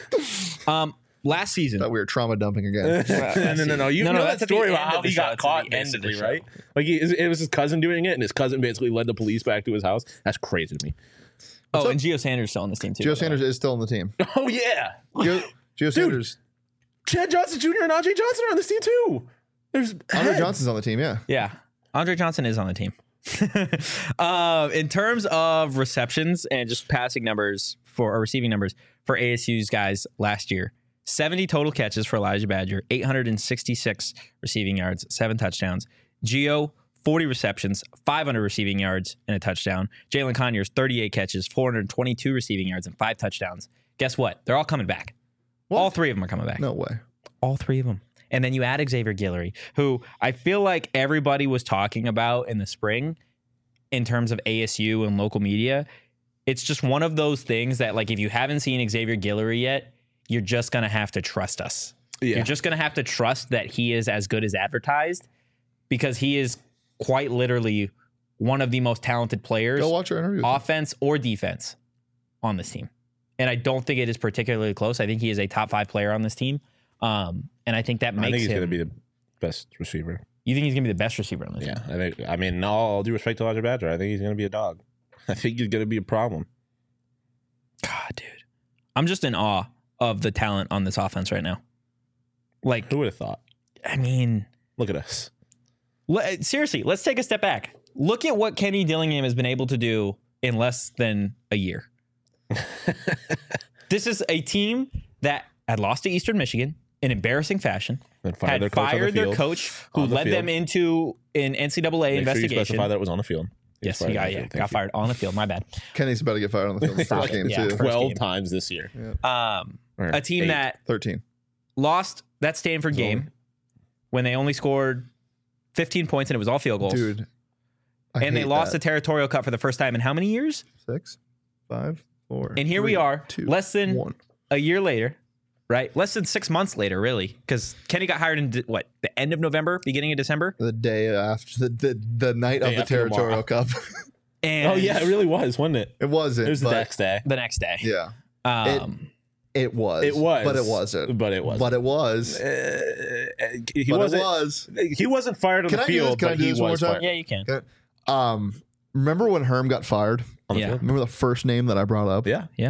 S1: Last season.
S2: thought we were trauma dumping again.
S3: No. You know
S1: that's
S3: that story
S1: the
S3: about
S1: end
S3: how
S1: of the
S3: he
S1: show.
S3: got
S1: It's
S3: caught,
S1: the end of the
S3: basically,
S1: show.
S3: right? Like it was his cousin doing it, and his cousin basically led the police back to his house. That's crazy to me.
S1: Oh, and Gio Sanders still on this team too.
S2: Gio Sanders is still on the team.
S3: Oh yeah,
S2: Gio Sanders.
S3: Chad Johnson Jr. and Andre Johnson are on this team too. There's
S2: Andre Johnson's on the team. Yeah.
S1: Yeah. Andre Johnson is on the team. In terms of receptions and just passing numbers or receiving numbers for ASU's guys last year, 70 total catches for Elijah Badger, 866 receiving yards, 7 touchdowns. Gio, 40 receptions, 500 receiving yards, and a touchdown. Jalen Conyers, 38 catches, 422 receiving yards, and 5 touchdowns. Guess what? They're all coming back.
S2: What?
S1: All 3 of them are coming back.
S2: No way.
S1: All 3 of them. And then you add Xavier Guillory, who I feel like everybody was talking about in the spring in terms of ASU and local media. It's just one of those things that, like, if you haven't seen Xavier Guillory yet, you're just going to have to trust us.
S3: Yeah.
S1: You're just going to have to trust that he is as good as advertised, because he is quite literally one of the most talented players,
S2: Go watch our interview.
S1: offense or defense, on this team. And I don't think it is particularly close. I think he is a top 5 player on this team. And I think that makes
S3: I think he's
S1: him.
S3: going to be the best receiver.
S1: You think he's going to be the best receiver on this team?
S3: Yeah, I mean, all due respect to Elijah Badger, I think he's going to be a dog. I think he's going to be a problem.
S1: God, dude. I'm just in awe of the talent on this offense right now. Like,
S3: Who would have thought?
S1: I mean,
S3: Look at us.
S1: seriously, let's take a step back. Look at what Kenny Dillingham has been able to do in less than a year. This is a team that had lost to Eastern Michigan in embarrassing fashion, had fired their coach who led them into an NCAA investigation.
S3: Sure you specify that was on the field.
S1: Yes, he got fired on the field. My bad.
S2: Kenny's about to get fired on the field in the first game,
S1: Yeah.
S2: too.
S3: 12
S1: game.
S3: times this year.
S1: A team that
S2: 13.
S1: lost that Stanford game when they only scored 15 points and it was all field goals.
S2: Dude.
S1: And they lost the Territorial Cup for the first time in how many years?
S2: 6? 5? 4,
S1: And here
S2: 3,
S1: we are,
S2: 2,
S1: less than
S2: 1.
S1: a year later, right? Less than 6 months later, really, because Kenny got hired in the end of November, beginning of December.
S2: The day after the night of the
S3: after
S2: Territorial Cup.
S1: And
S3: Oh yeah, it really was, wasn't it?
S2: It wasn't.
S3: It was the
S2: but-
S3: next day.
S1: the next day.
S2: Yeah.
S1: It
S2: It was.
S3: It was,
S2: But it wasn't.
S3: But it was.
S2: But it was.
S3: He
S2: But
S3: wasn't.
S2: it was.
S3: He wasn't fired on
S2: Can
S3: the
S2: I do this?
S3: field,
S2: Can I
S3: but
S2: do
S3: he
S2: this one
S3: was
S2: more time?
S3: fired.
S1: yeah, you can.
S2: Remember when Herm got fired?
S3: On the
S1: Yeah.
S3: field?
S2: Remember the first name that I brought up?
S3: Yeah.
S1: Yeah.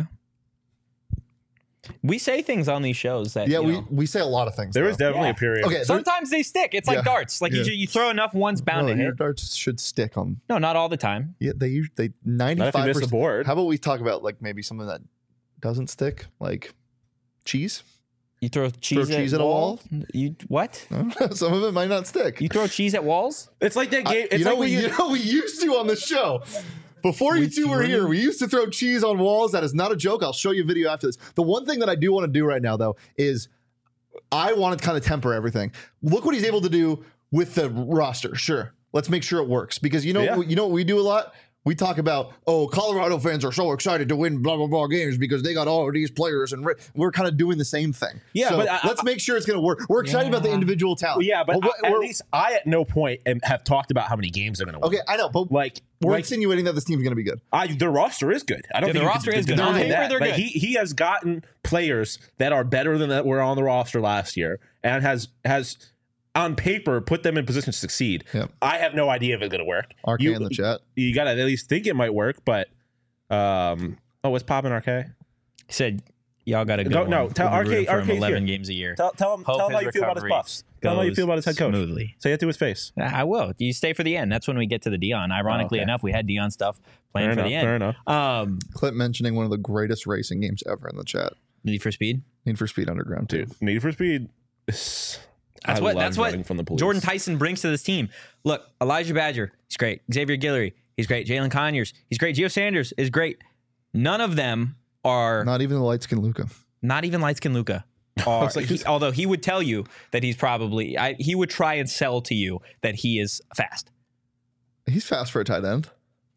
S1: We say things on these shows that
S2: Yeah,
S1: you know,
S2: we say a lot of things.
S3: There was
S2: though.
S3: definitely
S1: Yeah.
S3: a period.
S2: Okay,
S1: sometimes they stick. It's like
S2: Yeah.
S1: darts. Like
S2: Yeah.
S1: you throw enough, one's bound to
S2: your
S1: hit.
S2: darts should stick on.
S1: No, not all the time.
S2: Yeah, they 95%.
S3: Not if you miss the board.
S2: How about we talk about like maybe something that doesn't stick, like cheese?
S1: You throw cheese,
S2: cheese
S1: at
S2: at a wall?
S1: You what?
S2: Some of it might not stick.
S1: You throw cheese at walls?
S3: It's like that game. It's
S2: you know,
S3: like when
S2: we used to on the show. Before you two were
S1: really?
S2: here, we used to throw cheese on walls. That is not a joke. I'll show you a video after this. The one thing that I do want to do right now, though, is I want to kind of temper everything. Look what he's able to do with the roster. Sure, let's make sure it works because you know what we do a lot. We talk about, oh, Colorado fans are so excited to win blah, blah, blah games because they got all of these players. And we're kind of doing the same thing.
S3: Yeah,
S2: so
S3: but
S2: let's make sure it's going to work. We're excited about the individual talent.
S3: Yeah, but at
S2: we're-
S3: least I at no point have talked about how many games they're going to win.
S2: Okay, I know, but
S3: Like,
S2: we're insinuating that this team's going to be good.
S3: their roster is good. I don't
S1: Yeah,
S3: think
S1: the roster is good.
S3: deny
S1: On paper,
S3: that.
S1: they're
S3: Like,
S1: good.
S3: he has gotten players that are better than that were on the roster last year, and has on paper put them in position to succeed.
S2: Yep.
S3: I have no idea if it's going to work.
S2: RK in the chat.
S3: You got to at least think it might work, but what's popping, RK?
S1: He said, y'all got to
S3: No,
S1: go.
S3: no, tell RK
S1: 11
S3: here.
S1: games a year.
S3: Tell him
S1: Hope
S3: how
S1: his
S3: you feel about his
S1: recovery
S3: buffs. Tell him how you feel about his head coach.
S1: Smoothly.
S3: Say it to his face.
S1: I will. You stay for the end. That's when we get to the Dion. Ironically
S3: okay.
S1: enough, we had Dion stuff playing
S3: Fair
S1: for
S3: enough.
S1: the end.
S3: Fair enough.
S2: Clip mentioning one of the greatest racing games ever in the chat.
S1: Need for Speed.
S2: Need for Speed Underground 2.
S3: Dude, Need for Speed.
S1: That's what
S3: from the police.
S1: Jordan Tyson brings to this team. Look, Elijah Badger, he's great. Xavier Guillory, he's great. Jalen Conyers, he's great. Gio Sanders is great. None of them are
S2: Not even the light skin Luca.
S1: not even light skin Luca. Although he would tell you that he's probably he would try and sell to you that he is fast.
S2: He's fast for a tight end.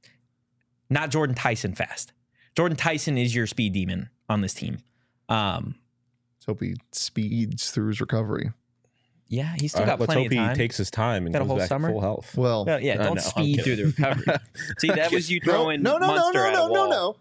S1: Not Jordan Tyson fast. Jordan Tyson is your speed demon on this team.
S2: So hope he speeds through his recovery.
S1: Yeah, he's still
S3: Let's
S1: got plenty
S3: hope
S1: of time.
S3: he takes his time and
S1: Got a
S3: comes
S1: whole
S3: back
S1: summer?
S3: to full health.
S2: Well,
S1: Well, yeah,
S3: I
S1: don't
S3: know, I'm
S1: speed through the recovery. See, that was you throwing
S2: no,
S1: Munster at a wall.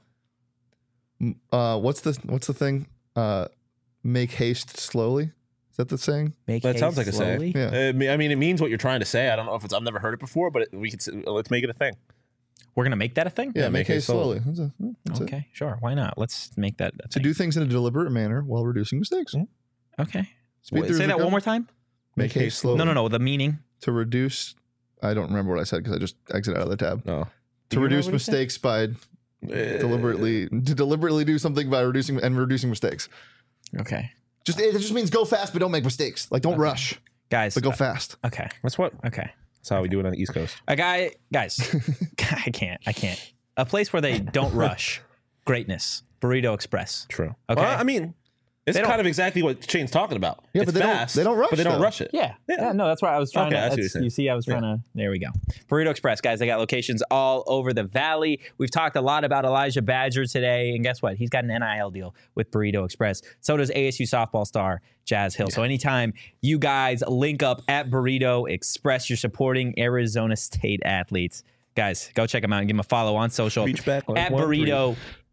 S2: What's the thing? Make haste slowly. Is that the saying?
S1: Make
S3: That sounds
S1: haste
S3: like a
S1: slowly.
S3: saying.
S2: Yeah.
S3: I mean, it means what you're trying to say. I don't know if I've never heard it before, but let's make it a thing.
S1: We're gonna make that a thing.
S2: Yeah, make haste slowly. That's it.
S1: Okay, sure. Why not? Let's make that a
S2: To
S1: thing.
S2: do things in a deliberate manner while reducing mistakes.
S1: Okay.
S2: Speed through
S1: Say
S2: his
S1: that one
S2: recovery.
S1: more time.
S2: Make haste slowly.
S1: No. The meaning.
S2: To reduce. I don't remember what I said because I just exited out of the tab.
S3: No.
S2: To reduce mistakes by deliberately do something by reducing mistakes.
S1: Okay,
S2: It just means go fast, but don't make mistakes. Like don't rush,
S1: guys.
S2: but go fast.
S1: Okay.
S3: That's what.
S1: Okay.
S3: That's how we do it on the East Coast.
S1: Guys. I can't. A place where they don't rush greatness. Burrito Express.
S3: True.
S1: Okay.
S3: Well, I mean, it's
S1: They don't-
S3: kind of exactly what Shane's talking about.
S2: Yeah,
S3: it's
S2: but they don't-
S3: fast.
S2: they don't rush,
S3: but they don't
S2: though.
S3: rush it.
S1: Yeah. No, that's why I was trying
S3: Okay, I see what
S1: to.
S3: you're saying.
S1: You see, I was trying to. There we go. Burrito Express, guys. They got locations all over the valley. We've talked a lot about Elijah Badger today, and guess what? He's got an NIL deal with Burrito Express. So does ASU softball star Jazz Hill. So anytime you guys link up at Burrito Express, you're supporting Arizona State athletes. Guys, go check them out and give them a follow on social
S3: Reach back like
S1: at
S3: 1-3.
S1: Burrito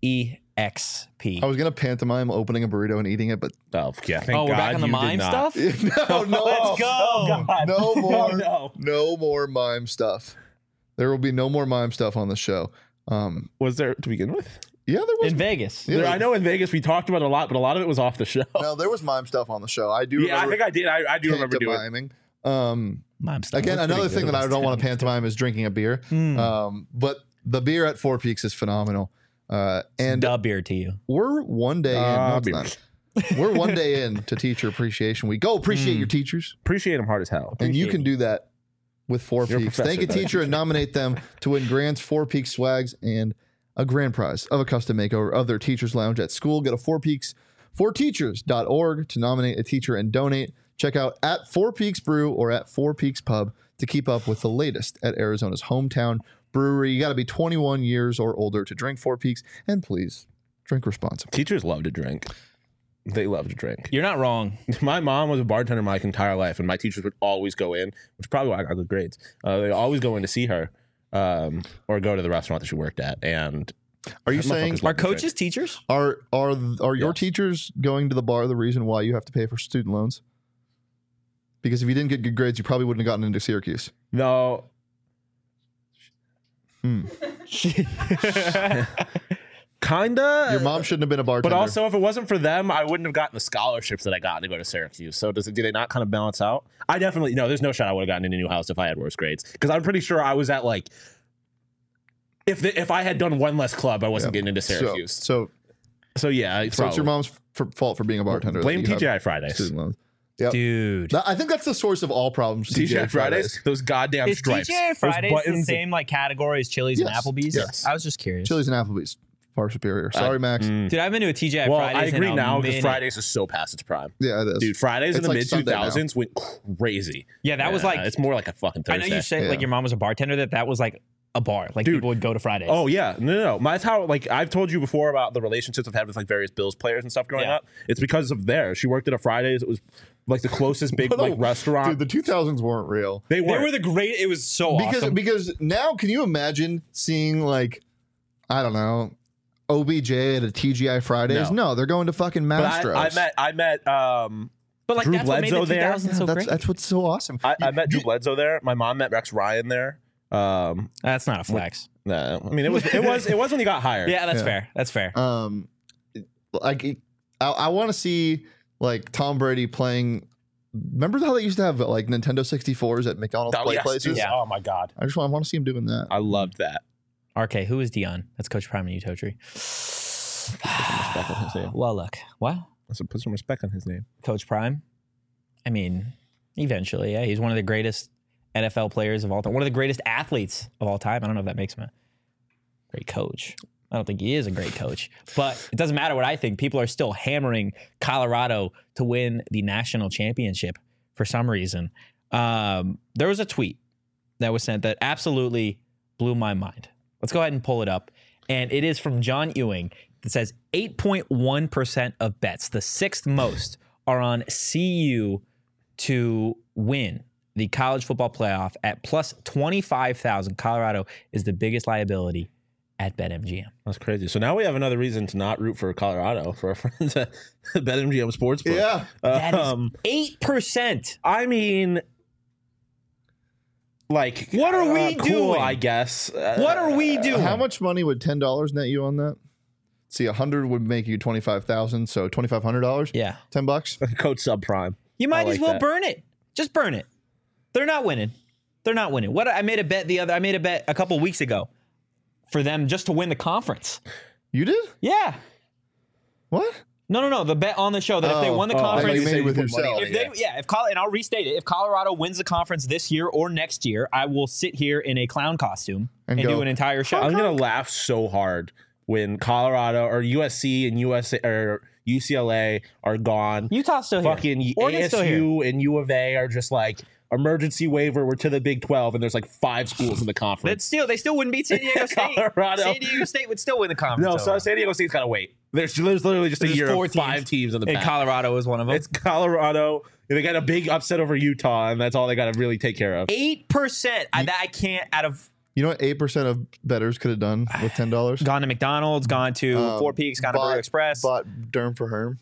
S1: EXP.
S2: I was gonna pantomime opening a burrito and eating it, but
S3: Oh, yeah. Thank
S1: Oh, we're
S3: God
S1: back on the
S3: you did
S1: mime
S3: not.
S1: stuff?
S2: no,
S1: Let's go.
S3: Oh, God.
S2: no more,
S3: Oh, no.
S2: no more mime stuff. There will be no more mime stuff on the show.
S3: Was there to begin with?
S2: Yeah, there was.
S1: In Vegas.
S2: Yeah.
S3: I know in Vegas we talked about it a lot, but a lot of it was off the show.
S2: No, there was mime stuff on the show. I do.
S3: Yeah, I
S2: remember
S3: think I did. I do remember doing it.
S2: pantomiming.
S1: Mime stuff.
S2: Again,
S3: pretty
S2: another
S3: good.
S2: thing that I
S1: It
S2: don't
S1: was
S2: want to pantomime is drinking a beer. But the beer at Four Peaks is phenomenal. And
S1: Dub beer to you.
S2: we're one day in. No, it's not. We're one day in to Teacher Appreciation Week. Go appreciate your teachers.
S3: Appreciate him hard as hell.
S2: And you can do that with Four
S3: You're a
S2: Peaks.
S3: professor,
S2: Thank a
S3: not a
S2: teacher and nominate them to win Grant's Four Peaks swags and a grand prize of a custom makeover of their teacher's lounge at school. Go to fourpeaks4teachers.org to nominate a teacher and donate. Check out at Four Peaks Brew or at Four Peaks Pub to keep up with the latest at Arizona's hometown brewery. You got to be 21 years or older to drink Four Peaks. And please Drink responsibly.
S3: Teachers love to drink. They love to drink.
S1: You're not wrong.
S3: My mom was a bartender my entire life, and my teachers would always go in, which is probably why I got good grades. They always go in to see her or go to the restaurant that she worked at. And
S2: are you saying
S1: are coaches teachers?
S2: Are your teachers going to the bar the reason why you have to pay for student loans? Because if you didn't get good grades, you probably wouldn't have gotten into Syracuse.
S3: No. Kinda.
S2: Your mom shouldn't have been a bartender.
S3: But also, if it wasn't for them, I wouldn't have gotten the scholarships that I got to go to Syracuse. So do they not kind of balance out? I definitely there's no shot I would have gotten into Newhouse if I had worse grades, because I'm pretty sure I was at like if I had done one less club, I wasn't getting into Syracuse.
S2: So
S3: yeah,
S2: it's your mom's fault for being a bartender.
S3: Blame TGI Fridays,
S2: student loans. Yep.
S1: Dude.
S2: I think that's the source of all problems.
S3: TGI Fridays, those goddamn
S1: Is
S3: stripes.
S1: TGI Fridays the same like category as Chili's and Applebee's?
S2: Yes.
S1: I was just curious.
S2: Chili's and Applebee's far superior. Sorry, Max.
S1: Dude, I've been to a TGI
S3: Well,
S1: Fridays.
S3: I agree now because
S1: because
S3: Fridays is so past its prime.
S2: Yeah, it is.
S3: Dude, Fridays in the
S2: like
S3: mid
S2: Sunday
S3: 2000s went crazy.
S1: Yeah, that was like
S3: it's more like a fucking Thursday.
S1: I know you said like your mom was a bartender. That was like a bar. Like
S3: Dude.
S1: people would go to Fridays.
S3: Oh yeah, no. That's how like I've told you before about the relationships I've had with like various Bills players and stuff growing up. It's because of there. She worked at a Fridays. It was like the closest big like restaurant.
S2: Dude, the 2000s weren't real.
S3: They
S1: were the great. It was so awesome.
S2: Because now, can you imagine seeing like, I don't know, OBJ at a TGI Fridays? No, they're going to fucking Mastro's.
S3: I met
S1: but like
S3: Drew
S1: that's what made the
S3: Bledsoe there.
S1: 2000s so great.
S2: That's what's so awesome.
S3: I met Drew Bledsoe there. My mom met Rex Ryan there.
S1: That's not a flex.
S3: No, I mean it was when he got hired.
S1: Yeah, that's fair. That's fair.
S2: Like I want to see like Tom Brady playing. Remember how they used to have like Nintendo 64s at McDonald's places?
S3: Dude, yeah. Oh my god.
S2: I want to see him doing that.
S3: I loved that.
S1: RK, who is Dion? That's Coach Prime and Utotri. Well, look. What?
S3: Let's put some respect on his name.
S1: Coach Prime. I mean, eventually, yeah. He's one of the greatest NFL players of all time. One of the greatest athletes of all time. I don't know if that makes him a great coach. I don't think he is a great coach. But it doesn't matter what I think. People are still hammering Colorado to win the national championship for some reason. There was a tweet that was sent that absolutely blew my mind. Let's go ahead and pull it up. And it is from John Ewing. It says 8.1% of bets, the sixth most, are on CU to win the college football playoff at plus 25,000. Colorado is the biggest liability at BetMGM.
S3: That's crazy. So now we have another reason to not root for Colorado for our friends at BetMGM Sportsbook.
S2: Yeah.
S1: That is 8%.
S3: I mean, like,
S1: what are we
S3: cool,
S1: doing?
S3: I guess.
S1: What are we doing?
S2: How much money would $10 net you on that? See, 100 would make you 25,000, so $2,500.
S1: Yeah,
S2: $10.
S3: Code subprime.
S1: You might as well burn it. Just burn it. They're not winning. They're not winning. What I made a bet a couple weeks ago for them just to win the conference.
S2: You did?
S1: Yeah.
S2: What?
S1: No. The bet on the show that if they won the conference,
S2: you made it with yourself.
S1: And I'll restate it. If Colorado wins the conference this year or next year, I will sit here in a clown costume and do an entire show.
S3: I'm gonna laugh so hard when Colorado or USC and UCLA are gone.
S1: Utah's still here.
S3: Fucking
S1: Oregon's still here.
S3: ASU and U of A are just like emergency waiver. We're to the Big 12, and there's like 5 schools in the conference.
S1: They still wouldn't beat San Diego State.
S3: Colorado.
S1: San Diego State would still win the conference.
S3: No, so San Diego State's gotta wait. There's literally just a year of 5 teams in the
S1: and
S3: pack.
S1: Colorado is one of them.
S3: It's Colorado. They got a big upset over Utah, and that's all they got to really take care of.
S1: 8%. I can't out of.
S2: You know what 8% of bettors could have done with $10?
S1: Gone to McDonald's, gone to Four Peaks, gone to Burrito Express.
S2: Bought Derm for Herm.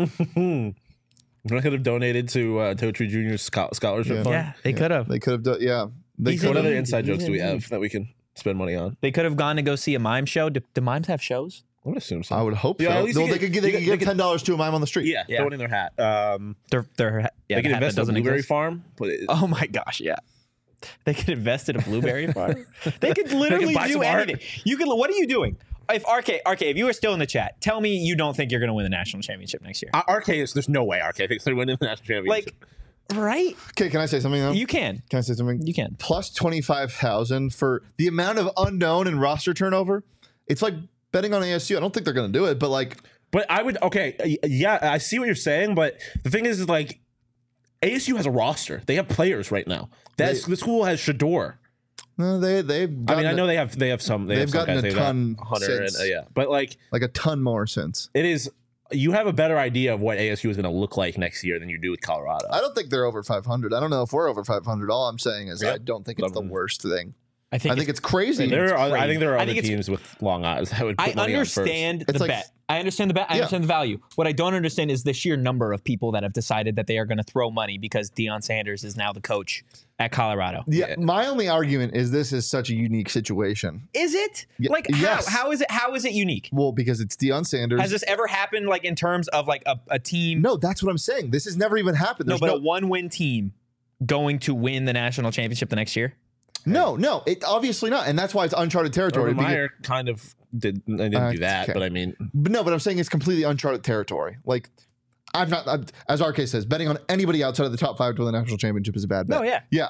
S3: I could have donated to Totri Jr.'s scholarship fund.
S1: Yeah, they could have.
S2: They could have done, yeah.
S3: What other inside jokes do we have that we can spend money on?
S1: They could have gone to go see a mime show. Do mimes have shows?
S3: I would assume so.
S2: I would hope
S3: Yeah,
S2: so.
S3: at least
S2: No,
S3: you
S2: they could give $10 to a mime on the street.
S3: Yeah, throw it in their hat.
S1: They
S3: They could invest in a blueberry farm.
S1: Oh my gosh, yeah. They could invest in a blueberry farm. They could literally
S3: buy
S1: do
S3: some art.
S1: anything. You could. What are you doing? If RK, if you were still in the chat, tell me you don't think you're going to win the national championship next year.
S3: There's no way RK thinks they're winning the national championship.
S1: Like, right?
S2: Okay, can I say something though?
S1: You can.
S2: Can I say something?
S1: You can.
S2: Plus 25,000 for the amount of unknown and roster turnover. It's like betting on ASU. I don't think they're going to do it, but like.
S3: But I would, yeah, I see what you're saying, but the thing is like, ASU has a roster. They have players right now. The school has Shador.
S2: No, they've.
S3: I mean, I know they have some.
S2: They've gotten a ton
S3: Hunter
S2: since.
S3: and, but like
S2: a ton more since.
S3: It is. You have a better idea of what ASU is going to look like next year than you do with Colorado.
S2: I don't think they're over 500. I don't know if we're over 500. All I'm saying is I don't think it's the worst thing.
S1: I think
S2: it's crazy.
S3: I think there are other teams with long odds that would put money on first.
S1: I understand the bet. I understand the bet. I understand the value. What I don't understand is the sheer number of people that have decided that they are going to throw money because Deion Sanders is now the coach at Colorado.
S2: Yeah, my only argument is this is such a unique situation.
S1: Is it?
S2: Yes.
S1: How is it? How is it unique?
S2: Well, because it's Deion Sanders.
S1: Has this ever happened? Like in terms of like a team?
S2: No, that's what I'm saying. This has never even happened.
S1: A one-win team going to win the national championship the next year.
S2: No, it obviously not, and that's why it's uncharted territory.
S3: Urban Meyer kind of didn't do that,
S2: okay.
S3: but I mean,
S2: but I'm saying it's completely uncharted territory. Like, I'm as RK says, betting on anybody outside of the top 5 to win the national championship is a bad bet.
S1: Oh yeah.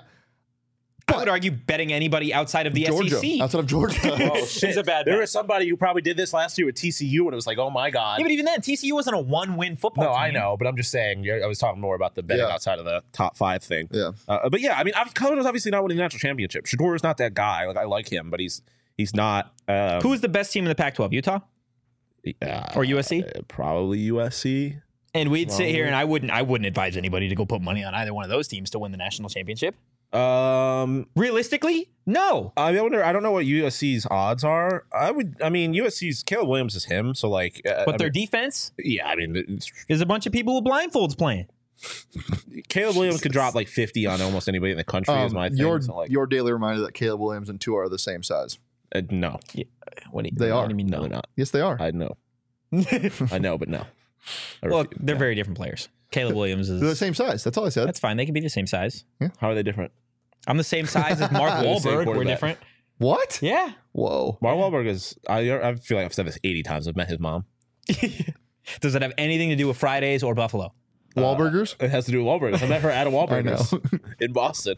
S1: I would argue betting anybody outside of the SEC.
S2: Outside of Georgia.
S3: Oh, shit.
S1: Is a bad bet.
S3: There was somebody who probably did this last year with TCU, and it was like, oh my God.
S1: Yeah, but even then, TCU wasn't a one-win football team.
S3: No, I know, but I'm just saying, I was talking more about the betting outside of the top 5 thing.
S2: Yeah.
S3: But yeah, I mean, Colorado's obviously not winning the national championship. Shadour's not that guy. Like, I like him, but he's not.
S1: Who's the best team in the Pac-12? Utah? Or USC?
S3: Probably USC.
S1: And we'd sit here, and I wouldn't advise anybody to go put money on either one of those teams to win the national championship. Realistically, no.
S3: I don't know what USC's odds are. USC's Caleb Williams is him, so like.
S1: But their defense?
S3: Yeah, I mean,
S1: there's a bunch of people with blindfolds playing.
S3: Caleb Williams could drop like 50 on almost anybody in the country. Is my thing.
S2: Your daily reminder that Caleb Williams and Tua are the same size.
S3: No.
S1: Yeah.
S2: What do
S1: you
S2: mean?
S3: No, they're not.
S2: Yes, they are.
S3: I know. I know, but no.
S1: Well, they're very different players. Caleb Williams is.
S2: They're the same size. That's all I said.
S1: That's fine. They can be the same size.
S2: Yeah.
S3: How are they different?
S1: I'm the same size as Mark Wahlberg. We're different.
S2: What?
S1: Yeah.
S2: Whoa.
S3: Mark Wahlberg is. I feel like I've said this 80 times. I've met his mom.
S1: Does it have anything to do with Fridays or Buffalo?
S2: Wahlburgers?
S3: It has to do with Wahlburgers. I met her at a Wahlburgers in Boston.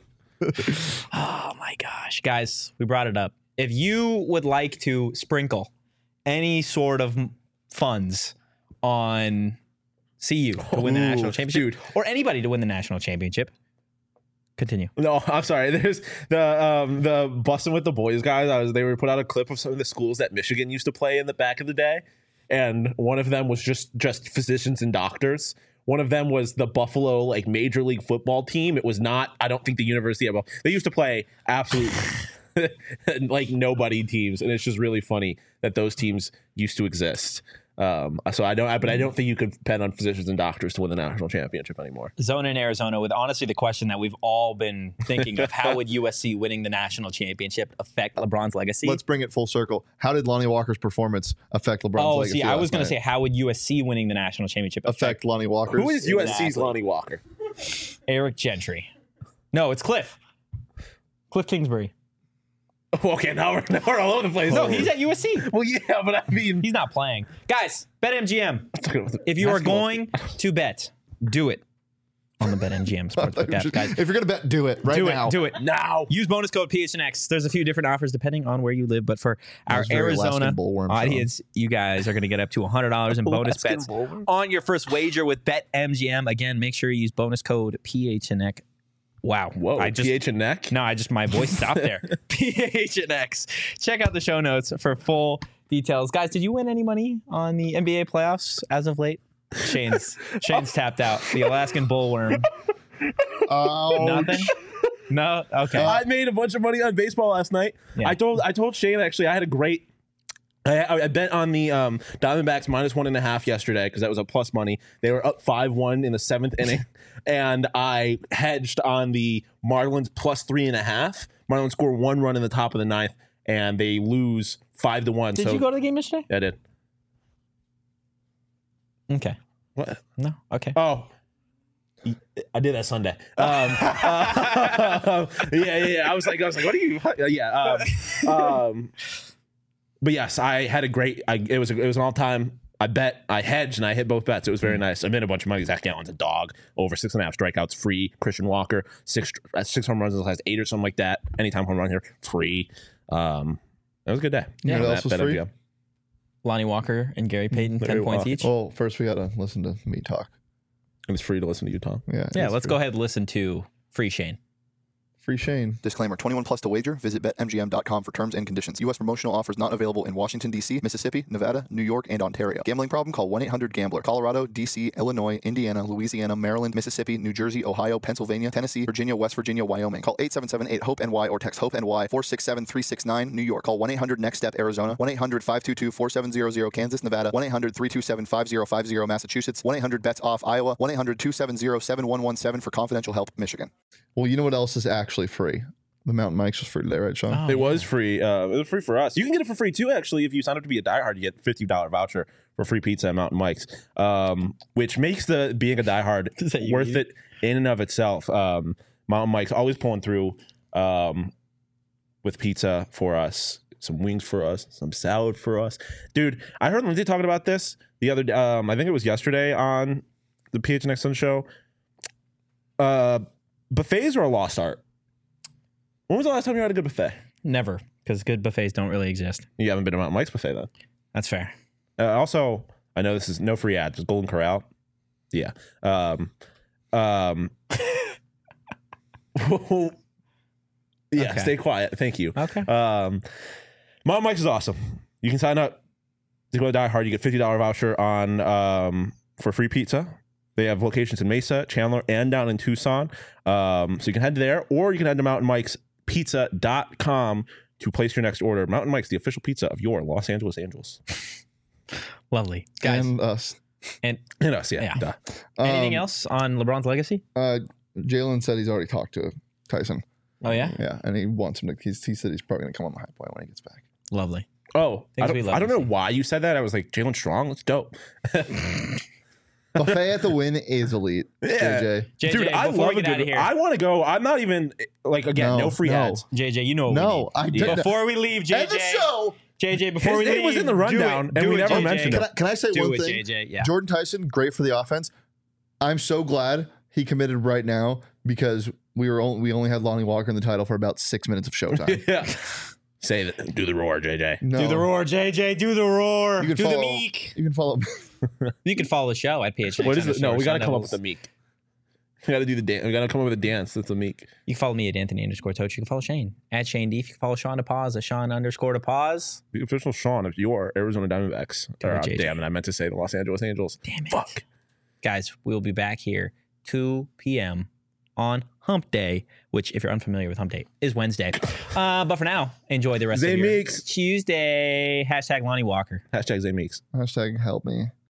S1: Oh my gosh, guys, we brought it up. If you would like to sprinkle any sort of funds on CU to win the national championship, or anybody to win the national championship, continue.
S3: No, I'm sorry. There's the Bustin' with the Boys guys. They were put out a clip of some of the schools that Michigan used to play in the back of the day, and one of them was just physicians and doctors. One of them was the Buffalo like Major League Football team. It was not. I don't think the University of Buffalo. They used to play absolute like nobody teams, and it's just really funny that those teams used to exist. So I don't think you could depend on physicians and doctors to win the national championship anymore.
S1: Zona in Arizona with honestly the question that we've all been thinking of: how would USC winning the national championship affect LeBron's legacy?
S2: Let's bring it full circle. How did Lonnie Walker's performance affect LeBron's legacy?
S1: I was going to say, how would USC winning the national championship
S2: affect Lonnie Walker?
S3: Who is USC's Lonnie Walker?
S1: Eric Gentry. No, it's Cliff Kingsbury.
S3: Okay, now we're all over the place.
S1: No, he's at USC.
S3: Well, yeah, but I mean,
S1: he's not playing. Guys, BetMGM. If you are going to bet, do it on the BetMGM Sportsbook app, guys.
S2: If you're going to bet, do it now.
S1: Do it now. Use bonus code PHNX. There's a few different offers depending on where you live, but for our Arizona audience, you guys are going to get up to $100 in bonus bets on your first wager with BetMGM. Again, make sure you use bonus code PHNX. Wow.
S3: Whoa, PH and neck?
S1: No, my voice stopped there. PH and X. Check out the show notes for full details. Guys, did you win any money on the NBA playoffs as of late? Shane's tapped out. The Alaskan bullworm. Nothing? No? Okay.
S3: I made a bunch of money on baseball last night. Yeah. I told Shane, actually, I had a great... I bet on the Diamondbacks -1.5 yesterday because that was a plus money. They were up 5-1 in the 7th inning, and I hedged on the Marlins +3.5. Marlins score 1 run in the top of the 9th, and they lose 5-1.
S1: Did you go to the game yesterday?
S3: I did.
S1: Okay.
S3: What?
S1: No. Okay.
S3: Oh. I did that Sunday. Yeah. I was like, what are you? Yeah. But yes, I had a great. It was an all time. I bet, I hedged, and I hit both bets. It was very nice. I made a bunch of money. Zach Gallen's a dog. Over 6.5 strikeouts, free. Christian Walker, 6 home runs in the last 8 or something like that. Anytime home run here, free. It was a good day.
S2: Yeah, what else was free?
S1: Lonnie Walker and Gary Payton, 10 points each.
S2: Oh, first we got to listen to me talk.
S3: It was free to listen to you, Tom.
S1: Yeah, let's go ahead and listen to Free Shane.
S2: Free Shane.
S4: Disclaimer, 21 plus to wager. Visit BetMGM.com for terms and conditions. U.S. promotional offers not available in Washington, D.C., Mississippi, Nevada, New York, and Ontario. Gambling problem? Call 1-800-GAMBLER. Colorado, D.C., Illinois, Indiana, Louisiana, Maryland, Mississippi, New Jersey, Ohio, Pennsylvania, Tennessee, Virginia, West Virginia, Wyoming. Call 877-8-HOPE-NY or text HOPE-NY 467-369. New York. Call 1-800-NEXT-STEP, Arizona. 1-800-522-4700, Kansas, Nevada. 1-800-327-5050, Massachusetts. 1-800-BETS-OFF, Iowa. 1-800-270-7117 for confidential help, Michigan.
S2: Well, you know what else is actually free? The Mountain Mike's was free today, right, Sean?
S1: Oh,
S3: It was free. It was free for us. You can get it for free too, actually. If you sign up to be a diehard, you get a $50 voucher for free pizza at Mountain Mike's, which makes the being a diehard worth it in and of itself. Mountain Mike's always pulling through with pizza for us, some wings for us, some salad for us. Dude, I heard Lindsay talking about this the other day. I think it was yesterday on the PHNX Sun show. Buffets are a lost art. When was the last time you had a good buffet?
S1: Never, because good buffets don't really exist.
S3: You haven't been to Mountain Mike's buffet then.
S1: That's fair.
S3: Also, I know this is no free ads. It's Golden Corral. Yeah. Yeah.
S1: Okay.
S3: Stay quiet. Thank you.
S1: Okay.
S3: Mountain Mike's is awesome. You can sign up to go to Die Hard. You get $50 voucher on for free pizza. They have locations in Mesa, Chandler, and down in Tucson. So you can head there, or you can head to mountainmikespizza.com to place your next order. Mountain Mike's, the official pizza of your Los Angeles Angels.
S1: Lovely. Guys.
S2: And us.
S1: And
S3: us, yeah. Duh.
S1: anything else on LeBron's legacy?
S2: Jalen said he's already talked to Tyson.
S1: Oh, yeah?
S2: Yeah, and he wants him to. He said he's probably going to come on the high point when he gets back.
S1: Lovely.
S3: Oh, I
S1: Things we love
S3: don't
S1: to
S3: know
S1: see.
S3: why you said that. I was like, Jalen Strong? That's dope.
S2: Buffet at the Win is elite.
S3: Yeah.
S2: JJ.
S1: JJ,
S3: Dude, I
S1: before
S3: love
S1: we
S3: a
S1: get out
S3: good.
S1: of here,
S3: I want to go. I'm not even like again. No free ads.
S1: JJ, you know what
S2: No, I
S1: we need.
S2: didn't.
S1: Before we leave, JJ.
S2: End the show.
S1: JJ, before
S3: His
S1: we
S3: name
S1: leave.
S3: was in the rundown, and we never
S1: JJ.
S3: mentioned it.
S2: Can I say
S1: Do
S2: one
S1: it,
S2: thing?
S1: JJ. Yeah.
S2: Jordan Tyson, great for the offense. I'm so glad he committed right now because we only had Lonnie Walker in the title for about 6 minutes of showtime.
S3: Yeah. Say that. Do the roar, JJ.
S2: No.
S1: Do the roar, JJ. Do the roar.
S2: You can
S1: Do
S2: follow,
S1: the meek.
S2: You can follow.
S1: You can follow the show at PHNX.
S3: What is it? No, we got to
S1: Sun
S3: come up
S1: Devils.
S3: with a meek. We got to do the dance. We got to come up with a dance that's a meek.
S1: You can follow me at Anthony_Toach. You can follow Shane at Shane Deef. You can follow Sean DePaz at Sean_DePaz.
S3: The official Sean of your Arizona Diamondbacks.
S1: JJ.
S3: Damn it, I meant to say the Los Angeles Angels.
S1: Damn it.
S3: Fuck.
S1: Guys, we'll be back here 2 p.m. on Hump Day, which, if you're unfamiliar with Hump Day, is Wednesday. But for now, enjoy the rest
S3: Zay
S1: of your
S3: Meeks.
S1: Tuesday. # Lonnie Walker.
S3: Hashtag Zay Meeks.
S2: Hashtag help me.